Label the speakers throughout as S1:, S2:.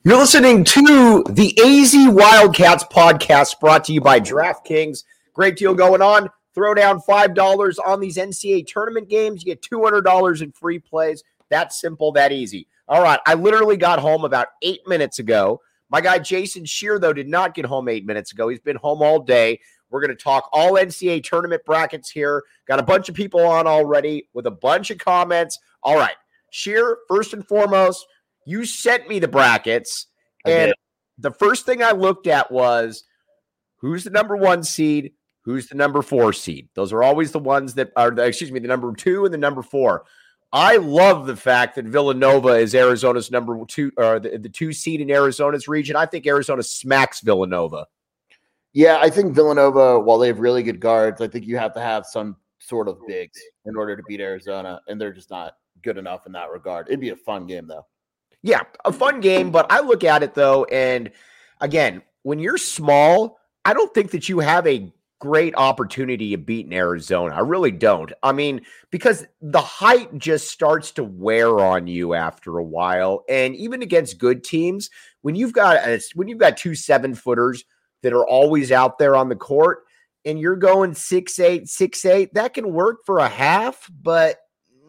S1: You're listening to the AZ Wildcats podcast brought to you by DraftKings. Great deal going on. Throw down $5 on these NCAA tournament games. You get $200 in free plays. That simple, that easy. All right, I literally got home about 8 minutes ago. My guy Jason Scheer, though, did not get home 8 minutes ago. He's been home all day. We're going to talk all NCAA tournament brackets here. Got a bunch of people on already with a bunch of comments. All right, Scheer, first and foremost, you sent me the brackets, and the first thing I looked at was who's the number 1 seed, who's the number 4 seed. Those are always the ones that are, the number 2 and the number 4. I love the fact that Villanova is Arizona's number 2, or the 2 seed in Arizona's region. I think Arizona smacks Villanova.
S2: Yeah, I think Villanova, while they have really good guards, I think you have to have some sort of bigs in order to beat Arizona, and they're just not good enough in that regard. It'd be a fun game, though.
S1: Yeah, a fun game, but I look at it, though, and again, when you're small, I don't think that you have a great opportunity of beating Arizona. I really don't. I mean, because the height just starts to wear on you after a while, and even against good teams, when you've got 2 7-footers that are always out there on the court, and you're going 6'8", 6'8", that can work for a half, but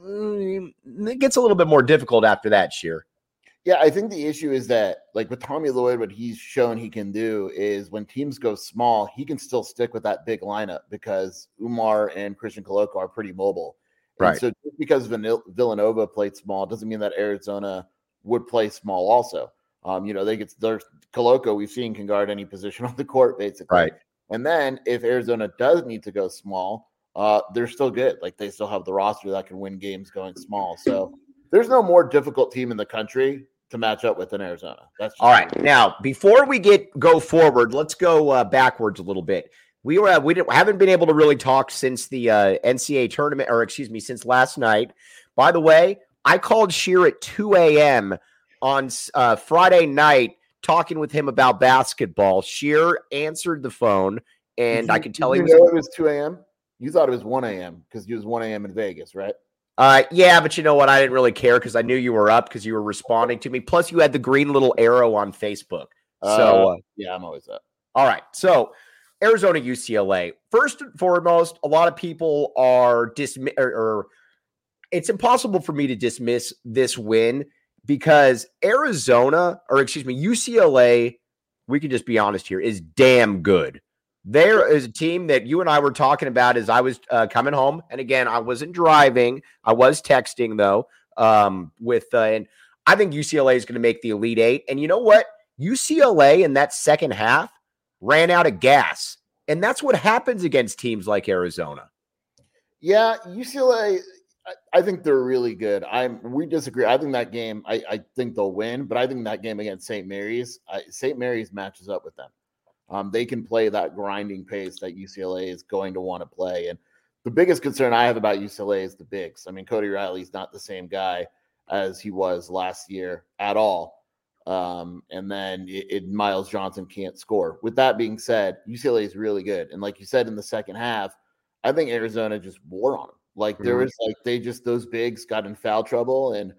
S1: it gets a little bit more difficult after that, Scheer.
S2: Yeah, I think the issue is that, like with Tommy Lloyd, what he's shown he can do is when teams go small, he can still stick with that big lineup because Umar and Christian Koloko are pretty mobile. And
S1: right.
S2: So just because Villanova played small doesn't mean that Arizona would play small also. There's Koloko, we've seen, can guard any position on the court, basically.
S1: Right.
S2: And then if Arizona does need to go small, they're still good. Like they still have the roster that can win games going small. So there's no more difficult team in the country to match up with in Arizona. That's
S1: all right. Now, before we go forward, let's go backwards a little bit. We haven't been able to really talk since the NCAA tournament, since last night. By the way, I called Scheer at 2 a.m. on Friday night, talking with him about basketball. Scheer answered the phone, and I could tell he was.
S2: It was 2 a.m. You thought it was 1 a.m. because he was 1 a.m. in Vegas, right?
S1: Yeah, but you know what? I didn't really care because I knew you were up because you were responding to me. Plus, you had the green little arrow on Facebook. So
S2: yeah, I'm always up.
S1: All right. So Arizona, UCLA. First and foremost, a lot of people are it's impossible for me to dismiss this win because UCLA, we can just be honest here, is damn good. There is a team that you and I were talking about as I was coming home. And again, I wasn't driving. I was texting, though, and I think UCLA is going to make the Elite Eight. And you know what? UCLA in that second half ran out of gas. And that's what happens against teams like Arizona.
S2: Yeah, UCLA, I think they're really good. We disagree. I think that game, I think they'll win. But I think that game against St. Mary's matches up with them. They can play that grinding pace that UCLA is going to want to play. And the biggest concern I have about UCLA is the bigs. I mean, Cody Riley's not the same guy as he was last year at all. And then Miles Johnson can't score. With that being said, UCLA is really good. And like you said, in the second half, I think Arizona just wore on them. Like there was those bigs got in foul trouble. And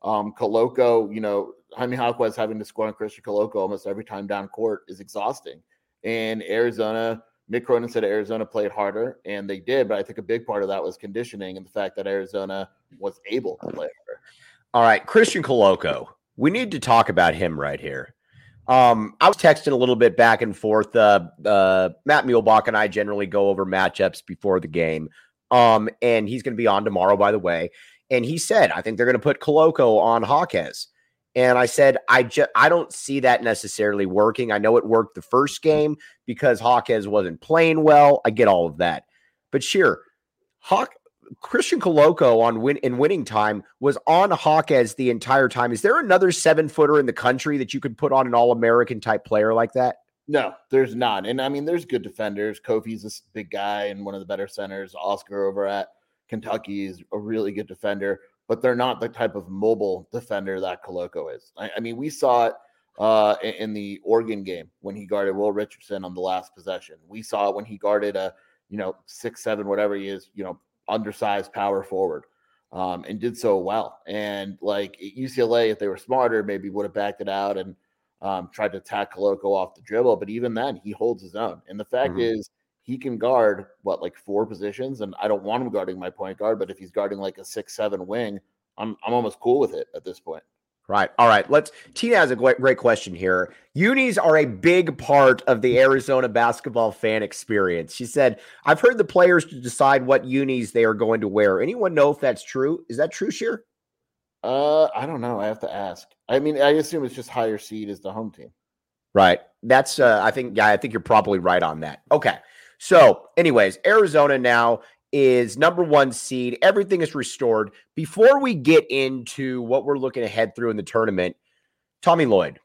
S2: Koloko, Jaime Jaquez having to score on Christian Koloko almost every time down court is exhausting. And Arizona, Mick Cronin said Arizona played harder, and they did. But I think a big part of that was conditioning and the fact that Arizona was able to play harder.
S1: All right, Christian Koloko. We need to talk about him right here. I was texting a little bit back and forth. Matt Muehlbach and I generally go over matchups before the game. And he's going to be on tomorrow, by the way. And he said, I think they're going to put Koloko on Jaquez. And I said, I don't see that necessarily working. I know it worked the first game because Jaquez wasn't playing well. I get all of that. But sure, Christian Koloko in winning time was on Jaquez the entire time. Is there another 7-footer in the country that you could put on an All-American type player like that?
S2: No, there's not. And I mean, there's good defenders. Kofi's a big guy and one of the better centers. Oscar over at Kentucky is a really good defender. But they're not the type of mobile defender that Koloko is. I mean, we saw it in the Oregon game when he guarded Will Richardson on the last possession. We saw it when he guarded a 6'7", whatever he is, undersized power forward, and did so well. And like UCLA, if they were smarter, maybe would have backed it out and tried to attack Koloko off the dribble, but even then he holds his own. And the fact is he can guard like 4 positions, and I don't want him guarding my point guard, but if he's guarding like a 6-7 wing, I'm almost cool with it at this point.
S1: Right. All right. Tina has a great question here. Unis are a big part of the Arizona basketball fan experience. She said, I've heard the players to decide what unis they are going to wear. Anyone know if that's true? Is that true, Sheer?
S2: I don't know. I have to ask. I mean, I assume it's just higher seed as the home team.
S1: Right. That's, I think you're probably right on that. Okay. So anyways, Arizona now is number 1 seed. Everything is restored. Before we get into what we're looking ahead through in the tournament, Tommy Lloyd,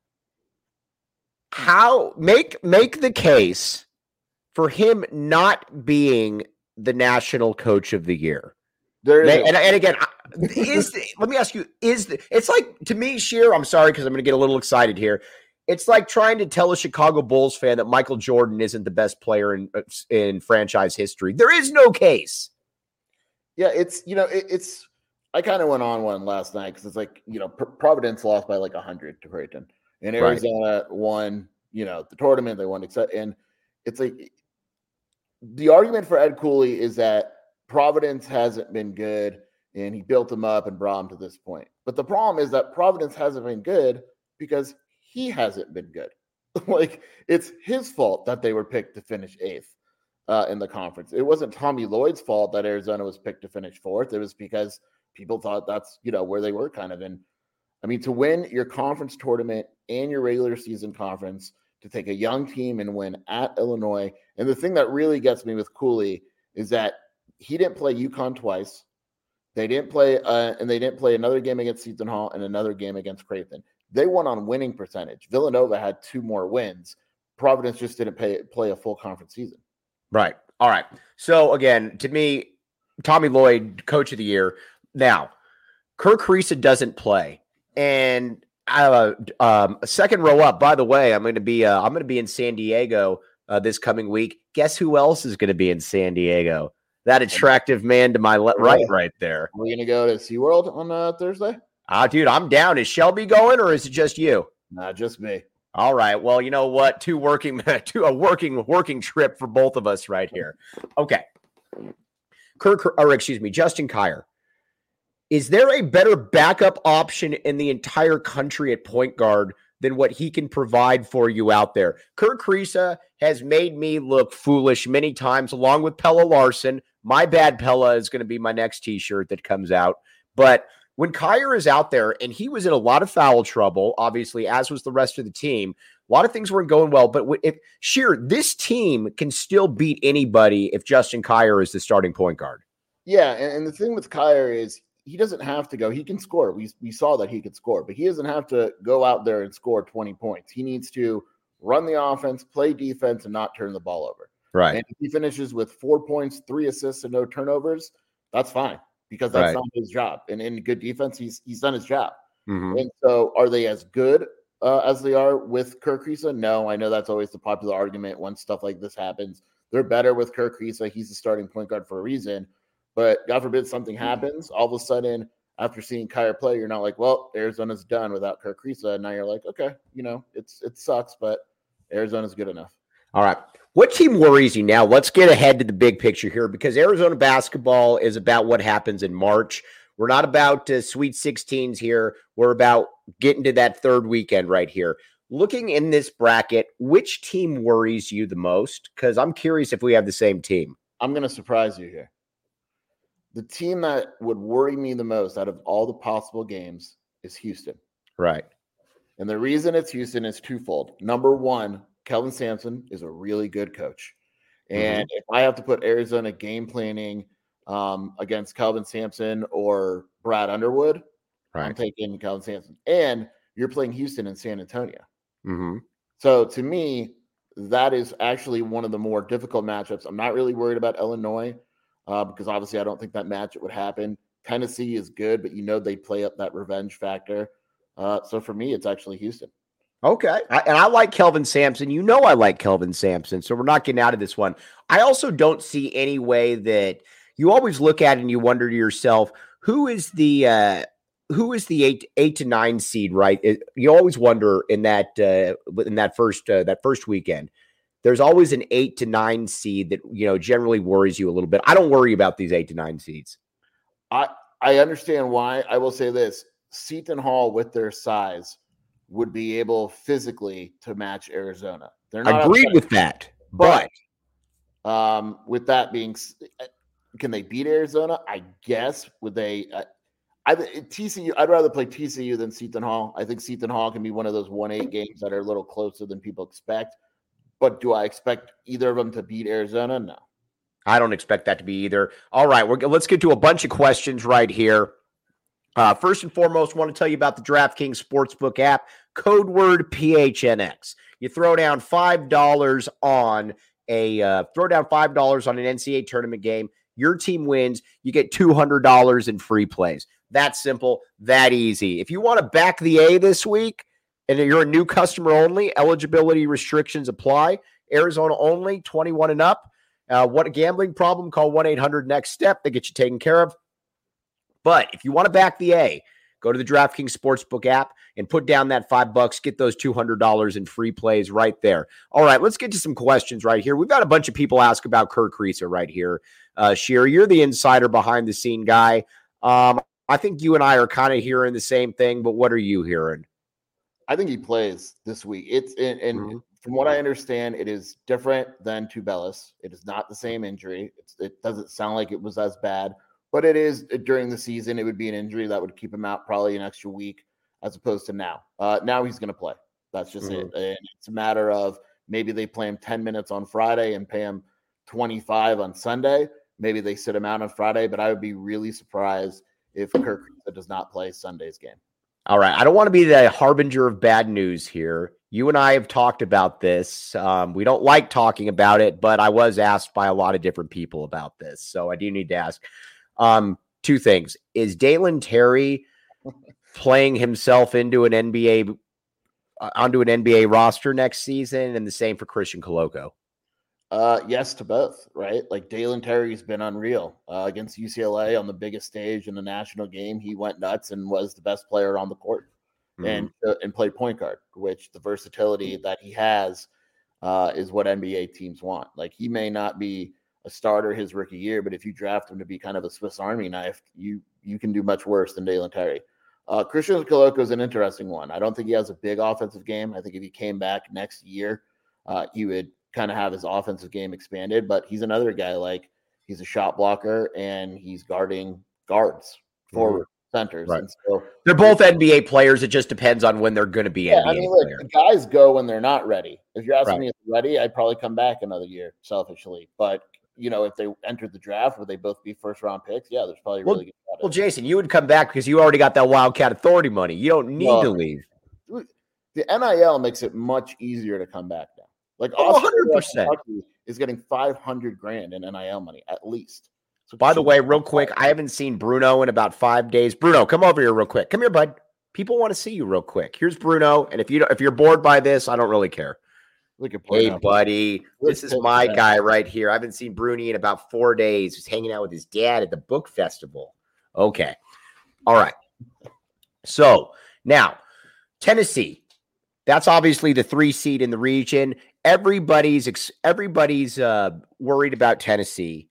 S1: how make the case for him not being the national coach of the year? And again, let me ask you, it's like, to me, Sheer, I'm sorry, because I'm going to get a little excited here. It's like trying to tell a Chicago Bulls fan that Michael Jordan isn't the best player in franchise history. There is no case.
S2: Yeah, it's I kind of went on one last night because it's like, Providence lost by like 100 to Creighton, and Arizona won, the tournament. They won, and it's like the argument for Ed Cooley is that Providence hasn't been good, and he built them up and brought them to this point. But the problem is that Providence hasn't been good because he hasn't been good. Like, it's his fault that they were picked to finish 8th in the conference. It wasn't Tommy Lloyd's fault that Arizona was picked to finish 4th. It was because people thought that's, where they were kind of in. I mean, to win your conference tournament and your regular season conference, to take a young team and win at Illinois. And the thing that really gets me with Cooley is that he didn't play UConn twice. They didn't play, and they didn't play another game against Seton Hall and another game against Creighton. They won on winning percentage. Villanova had 2 more wins. Providence just didn't play a full conference season.
S1: Right. All right. So again, to me, Tommy Lloyd, coach of the year. Now, Kerr Kriisa doesn't play, and a second row up. By the way, I'm going to be in San Diego this coming week. Guess who else is going to be in San Diego? That attractive man to my right there.
S2: We're going to go to SeaWorld on Thursday.
S1: Dude, I'm down. Is Shelby going, or is it just you?
S2: Nah, just me.
S1: All right. Well, you know what? A working trip for both of us right here. Okay. Justin Kier. Is there a better backup option in the entire country at point guard than what he can provide for you out there? Kerr Kriisa has made me look foolish many times, along with Pelle Larsson. My bad, Pella is going to be my next T-shirt that comes out. But when Kier is out there, and he was in a lot of foul trouble, obviously, as was the rest of the team, a lot of things weren't going well. But this team can still beat anybody if Justin Kier is the starting point guard.
S2: Yeah, and the thing with Kier is he doesn't have to go. He can score. We saw that he could score, but he doesn't have to go out there and score 20 points. He needs to run the offense, play defense, and not turn the ball over.
S1: Right.
S2: And if he finishes with 4 points, 3 assists, and no turnovers, that's fine, because that's not his job. And in good defense, he's done his job.
S1: Mm-hmm.
S2: And so are they as good as they are with Kerr Kriisa? No, I know that's always the popular argument when stuff like this happens. They're better with Kerr Kriisa. He's the starting point guard for a reason. But God forbid something happens, all of a sudden, after seeing Kier play, you're not like, well, Arizona's done without Kerr Kriisa. And now you're like, okay, it sucks, but Arizona's good enough.
S1: All right. What team worries you now? Let's get ahead to the big picture here, because Arizona basketball is about what happens in March. We're not about Sweet 16s here. We're about getting to that third weekend right here. Looking in this bracket, which team worries you the most? Because I'm curious if we have the same team.
S2: I'm going to surprise you here. The team that would worry me the most out of all the possible games is Houston.
S1: Right.
S2: And the reason it's Houston is twofold. Number one, Kelvin Sampson is a really good coach. And if I have to put Arizona game planning against Kelvin Sampson or Brad Underwood, I'm taking Kelvin Sampson. And you're playing Houston and San Antonio.
S1: Mm-hmm.
S2: So to me, that is actually one of the more difficult matchups. I'm not really worried about Illinois. Because obviously I don't think that matchup would happen. Tennessee is good, but they play up that revenge factor. So for me, it's actually Houston.
S1: Okay. I like Kelvin Sampson. I like Kelvin Sampson, so we're not getting out of this one. I also don't see any way that you always look at it and you wonder to yourself, who is the who is the eight to nine seed, right? You always wonder in that first weekend. There's always an 8 to 9 seed that generally worries you a little bit. I don't worry about these 8 to 9 seeds.
S2: I understand why. I will say this: Seton Hall, with their size, would be able physically to match Arizona. They're not
S1: agreed with that, but
S2: with that being, can they beat Arizona? I guess. Would they? TCU. I'd rather play TCU than Seton Hall. I think Seton Hall can be one of those 1-8 games that are a little closer than people expect. But do I expect either of them to beat Arizona? No.
S1: I don't expect that to be either. All right, let's get to a bunch of questions right here. First and foremost, I want to tell you about the DraftKings Sportsbook app, code word PHNX. You throw down $5 on an NCAA tournament game. Your team wins. You get $200 in free plays. That simple, that easy. If you want to back the A this week, and you're a new customer only, eligibility restrictions apply. Arizona only, 21 and up. What a gambling problem, call 1-800-NEXT-STEP. They get you taken care of. But if you want to back the A, go to the DraftKings Sportsbook app and put down that $5. Get those $200 in free plays right there. All right, let's get to some questions right here. We've got a bunch of people ask about Kerr Kriisa right here. Shearer, you're the insider behind the scene guy. I think you and I are kind of hearing the same thing, but what are you hearing?
S2: I think he plays this week. From what I understand, it is different than Tubelis. It is not the same injury. It doesn't sound like it was as bad, but it is during the season. It would be an injury that would keep him out probably an extra week as opposed to now. Now he's going to play. That's just it. And it's a matter of maybe they play him 10 minutes on Friday and pay him 25 on Sunday. Maybe they sit him out on Friday, but I would be really surprised if Kerr Kriisa does not play Sunday's game.
S1: All right. I don't want to be the harbinger of bad news here. You and I have talked about this. We don't like talking about it, but I was asked by a lot of different people about this. So I do need to ask two things. Is Dalen Terry playing himself into an NBA roster next season? And the same for Christian Koloko?
S2: Yes to both, right? Like Dalen Terry's been unreal against UCLA on the biggest stage in the national game. He went nuts and was the best player on the court and played point guard, which the versatility that he has is what NBA teams want. Like he may not be a starter his rookie year, but if you draft him to be kind of a Swiss Army knife, you can do much worse than Dalen Terry. Christian Koloko is an interesting one. I don't think he has a big offensive game. I think if he came back next year, he would kind of have his offensive game expanded, but he's another guy, like he's a shot blocker and he's guarding guards, forward, centers.
S1: Right.
S2: And so
S1: they're both NBA players. It just depends on when they're going to be NBA players.
S2: The guys go when they're not ready. If you're asking me if they're ready, I'd probably come back another year selfishly. But if they entered the draft, would they both be first round picks? Yeah, there's probably really good.
S1: Well, Jason, you would come back because you already got that Wildcat Authority money. You don't need to leave.
S2: The NIL makes it much easier to come back now. Like
S1: 100%
S2: is getting $500,000 in NIL money at least.
S1: So by the way, real quick, I haven't seen Bruno in about 5 days. Bruno, come over here real quick. Come here, bud. People want to see you real quick. Here's Bruno, and if you're bored by this, I don't really care. Hey, buddy, this is my guy right here. I haven't seen Bruni in about 4 days. He's hanging out with his dad at the book festival. Okay, all right. So now Tennessee. That's obviously the 3 seed in the region. Everybody's worried about Tennessee.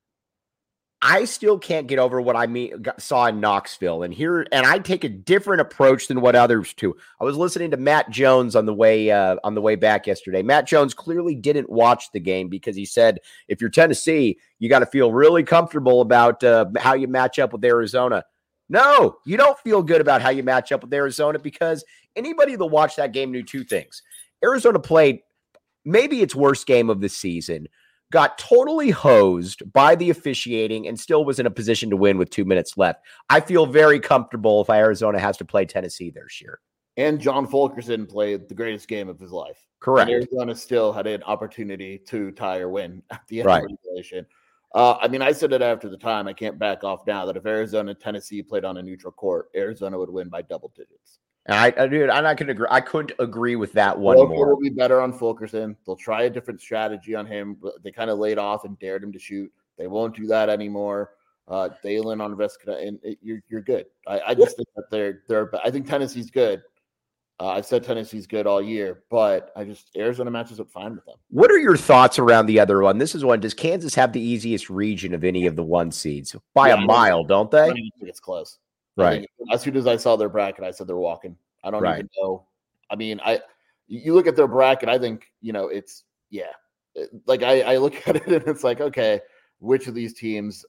S1: I still can't get over what saw in Knoxville, and I take a different approach than what others do. I was listening to Matt Jones on the way back yesterday. Matt Jones clearly didn't watch the game because he said, if you're Tennessee, you got to feel really comfortable about how you match up with Arizona. No, you don't feel good about how you match up with Arizona because anybody that watched that game knew 2 things. Arizona played maybe its worst game of the season, got totally hosed by the officiating, and still was in a position to win with 2 minutes left. I feel very comfortable if Arizona has to play Tennessee this year.
S2: And John Fulkerson played the greatest game of his life.
S1: Correct.
S2: And Arizona still had an opportunity to tie or win at the end of regulation. I said it after the time. I can't back off now that if Arizona and Tennessee played on a neutral court, Arizona would win by double digits.
S1: And I couldn't agree. I couldn't agree with that one more.
S2: Will be better on Fulkerson. They'll try a different strategy on him. They kind of laid off and dared him to shoot. They won't do that anymore. Dalen on Vesca, and you're good. I just think that they're. I think Tennessee's good. I've said Tennessee's good all year, but Arizona matches up fine with them.
S1: What are your thoughts around the other one? This is one. Does Kansas have the easiest region of any of the 1 seeds by a mile? Don't they?
S2: I don't even think it's close.
S1: Right.
S2: As soon as I saw their bracket, I said they're walking. I don't even know. I mean, you look at their bracket. I think it's like I look at it and it's like, okay, which of these teams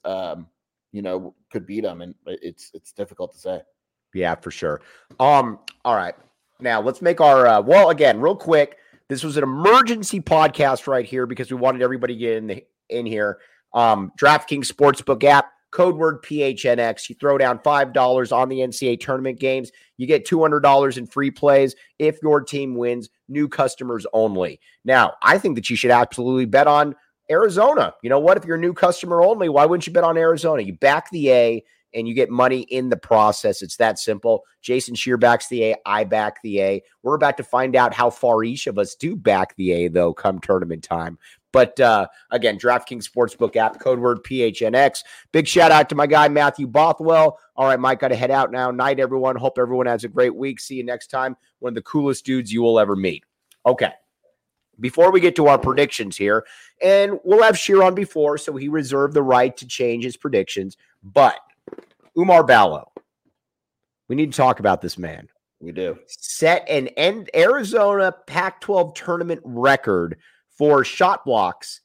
S2: could beat them, and it's difficult to say. Yeah, for sure. All right. Now let's make our again, real quick. This was an emergency podcast right here because we wanted everybody to get in here. DraftKings Sportsbook app, code word PHNX. You throw down $5 on the NCAA tournament games. You get $200 in free plays if your team wins. New customers only. Now, I think that you should absolutely bet on Arizona. You know what? If you're a new customer only, why wouldn't you bet on Arizona? You back the A and you get money in the process. It's that simple. Jason Shear backs the A. I back the A. We're about to find out how far each of us do back the A, though, come tournament time. But again, DraftKings Sportsbook app, code word PHNX. Big shout out to my guy, Matthew Bothwell. All right, Mike, got to head out now. Night, everyone. Hope everyone has a great week. See you next time. One of the coolest dudes you will ever meet. Okay. Before we get to our predictions here, and we'll have Shear on before, so he reserved the right to change his predictions. But Oumar Ballo, we need to talk about this man. We do.
S1: Set an Arizona Pac-12 tournament record for shot blocks,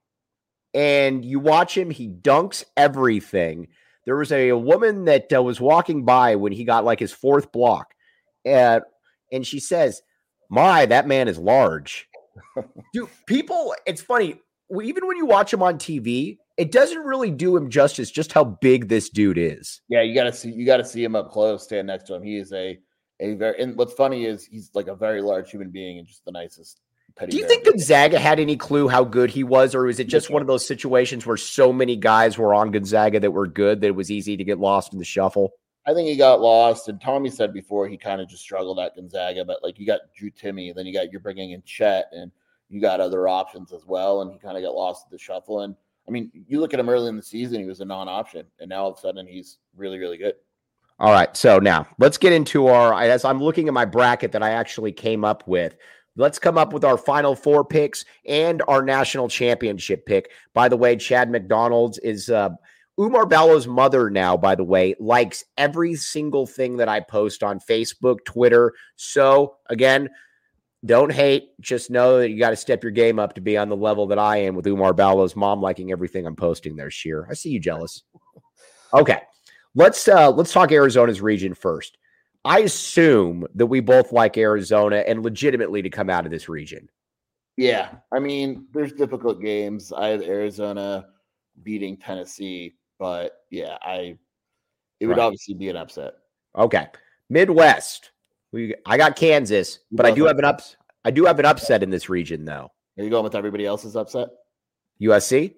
S1: and you watch him, he dunks everything. There was a woman that was walking by when he got like his 4th block, and she says, "My, that man is large." Dude, people, it's funny. Even when you watch him on TV, it doesn't really do him justice just how big this dude is.
S2: Yeah, you got to see him up close, stand next to him. He is a very, and what's funny is he's like a very large human being and just the nicest.
S1: Do you think Gonzaga had any clue how good he was, or was it just one of those situations where so many guys were on Gonzaga that were good that it was easy to get lost in the shuffle?
S2: I think he got lost, and Tommy said before he kind of just struggled at Gonzaga, but like you got Drew Timme, then you're bringing in Chet, and you got other options as well, and he kind of got lost in the shuffle. And I mean, you look at him early in the season, he was a non-option, and now all of a sudden he's really, really good.
S1: All right, so now let's get into as I'm looking at my bracket that I actually came up with. Let's come up with our final 4 picks and our national championship pick. By the way, Chad McDonald's is Oumar Ballo's mother now, by the way, likes every single thing that I post on Facebook, Twitter. So, again, don't hate. Just know that you got to step your game up to be on the level that I am with Oumar Ballo's mom liking everything I'm posting there, Shear. I see you jealous. Okay, let's talk Arizona's region first. I assume that we both like Arizona and legitimately to come out of this region.
S2: Yeah, I mean, there's difficult games. I have Arizona beating Tennessee, but yeah, it would obviously be an upset.
S1: Okay, Midwest. I got Kansas, but I do have an upset in this region, though.
S2: Are you going with everybody else's upset?
S1: USC?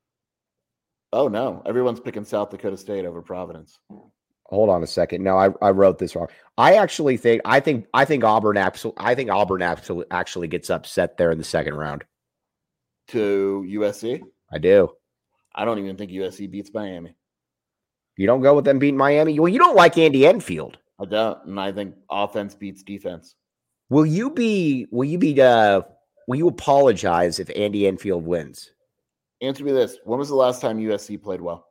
S2: Oh no, everyone's picking South Dakota State over Providence.
S1: Hold on a second. No, I wrote this wrong. I think Auburn actually gets upset there in the second round.
S2: To USC?
S1: I do.
S2: I don't even think USC beats Miami.
S1: You don't go with them beating Miami? Well, you don't like Andy Enfield.
S2: I don't, and I think offense beats defense.
S1: Will you apologize if Andy Enfield wins?
S2: Answer me this. When was the last time USC played well?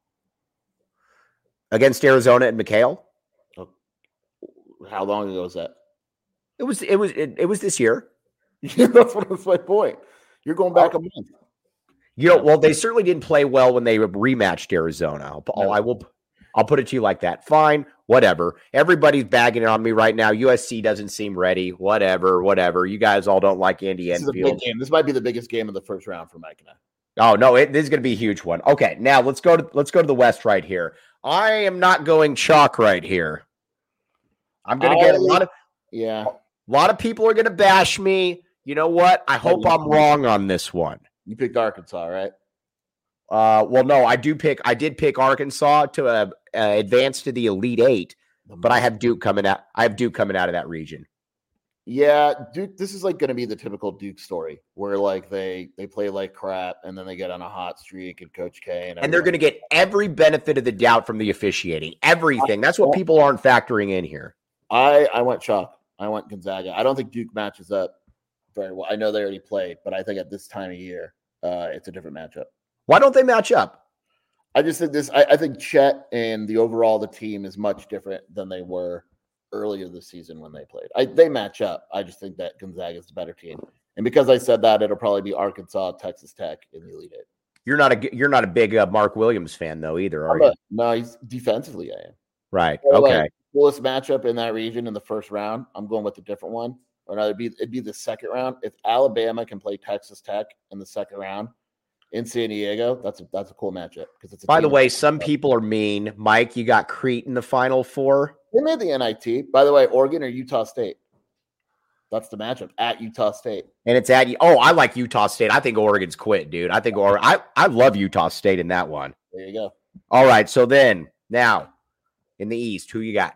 S1: Against Arizona and McHale?
S2: Oh, how long ago was that?
S1: It was this year.
S2: Yeah, that's my point. You're going back a month.
S1: Well, they certainly didn't play well when they rematched Arizona. I'll put it to you like that. Fine, whatever. Everybody's bagging it on me right now. USC doesn't seem ready. Whatever. You guys all don't like Andy Enfield.
S2: This is a big game. This might be the biggest game of the first round for Mike and I.
S1: Oh no, this is going to be a huge one. Okay, now let's go to the West right here. I am not going chalk right here. I'm going to get a lot of people are going to bash me. You know what? I hope I'm wrong on this one.
S2: You picked Arkansas, right?
S1: Well, no, I did pick Arkansas to advance to the Elite Eight, but I have Duke coming out. I have Duke coming out of that region.
S2: Yeah, Duke. This is like going to be the typical Duke story, where like they play like crap, and then they get on a hot streak, and Coach K
S1: And they're going to get every benefit of the doubt from the officiating. Everything. That's what people aren't factoring in here.
S2: I went chalk. I went Gonzaga. I don't think Duke matches up very well. I know they already played, but I think at this time of year, it's a different matchup.
S1: Why don't they match up?
S2: I just think this. I think Chet and the team is much different than they were earlier this season when they played. They match up. I just think that Gonzaga is the better team, and because I said that, it'll probably be Arkansas, Texas Tech in the Elite Eight.
S1: You're not a big Mark Williams fan though either, are you?
S2: No, he's defensively. I am.
S1: Right.
S2: So,
S1: okay.
S2: Like, coolest matchup in that region in the first round. I'm going with a different one. Or no, it'd be the second round. If Alabama can play Texas Tech in the second round in San Diego, that's a cool matchup because it's.
S1: By the way, some people are mean. Mike, you got Crete in the Final Four.
S2: They made the NIT. By the way, Oregon or Utah State. That's the matchup at Utah State.
S1: And it's at I like Utah State. I think Oregon's quit, dude. I think I love Utah State in that one.
S2: There you go.
S1: All right. So then now in the East, who you got?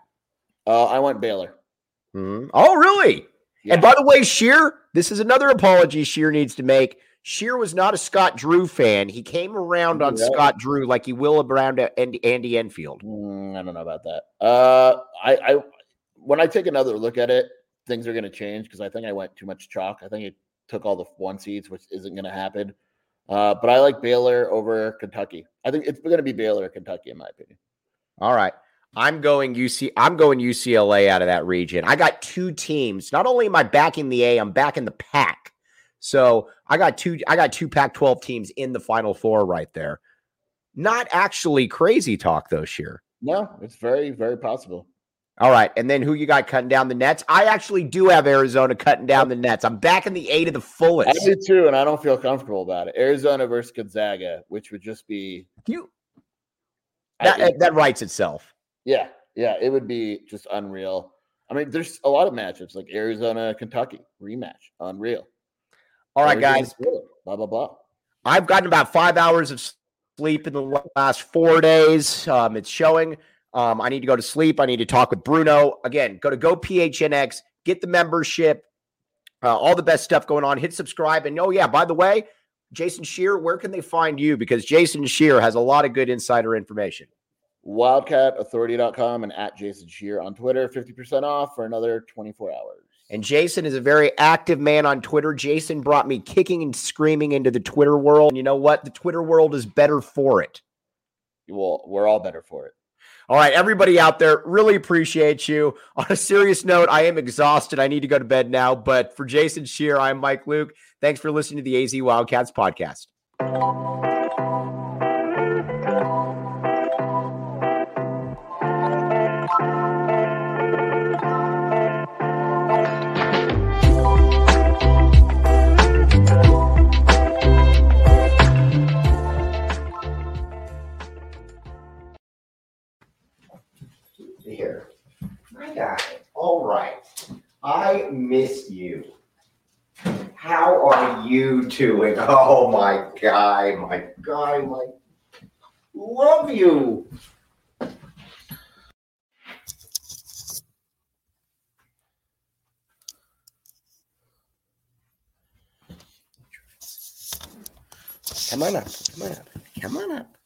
S2: I went Baylor.
S1: Mm-hmm. Oh, really? Yeah. And by the way, Shear, this is another apology Shear needs to make. Shear was not a Scott Drew fan. He came around on Scott Drew like he will around Andy Enfield.
S2: I don't know about that. I when I take another look at it, things are going to change because I think I went too much chalk. I think it took all the 1 seeds, which isn't going to happen. But I like Baylor over Kentucky. I think it's going to be Baylor or Kentucky, in my opinion.
S1: All right. I'm going UCLA out of that region. I got two teams. Not only am I backing the A, I'm backing the Pac. So I got two Pac-12 teams in the Final Four right there. Not actually crazy talk though, Shear.
S2: No, it's very, very possible.
S1: All right. And then who you got cutting down the nets? I actually do have Arizona cutting down the nets. I'm backing the A to the fullest.
S2: I do too, and I don't feel comfortable about it. Arizona versus Gonzaga, which would just be
S1: that writes itself.
S2: Yeah, it would be just unreal. I mean, there's a lot of matchups like Arizona, Kentucky rematch, unreal.
S1: All right, guys.
S2: Blah blah blah.
S1: I've gotten about 5 hours of sleep in the last 4 days. It's showing. I need to go to sleep. I need to talk with Bruno. Again, go to GoPHNX, get the membership, all the best stuff going on. Hit subscribe. And oh, yeah, by the way, Jason Shear, where can they find you? Because Jason Shear has a lot of good insider information.
S2: WildcatAuthority.com and at Jason Shear on Twitter, 50% off for another 24 hours.
S1: And Jason is a very active man on Twitter. Jason brought me kicking and screaming into the Twitter world. And you know what? The Twitter world is better for it.
S2: Well, we're all better for it.
S1: All right, everybody out there, really appreciate you. On a serious note, I am exhausted. I need to go to bed now. But for Jason Shear, I'm Mike Luke. Thanks for listening to the AZ Wildcats podcast. Here, my guy. All right, I miss you. How are you doing? Oh, my guy, love you. Come on up.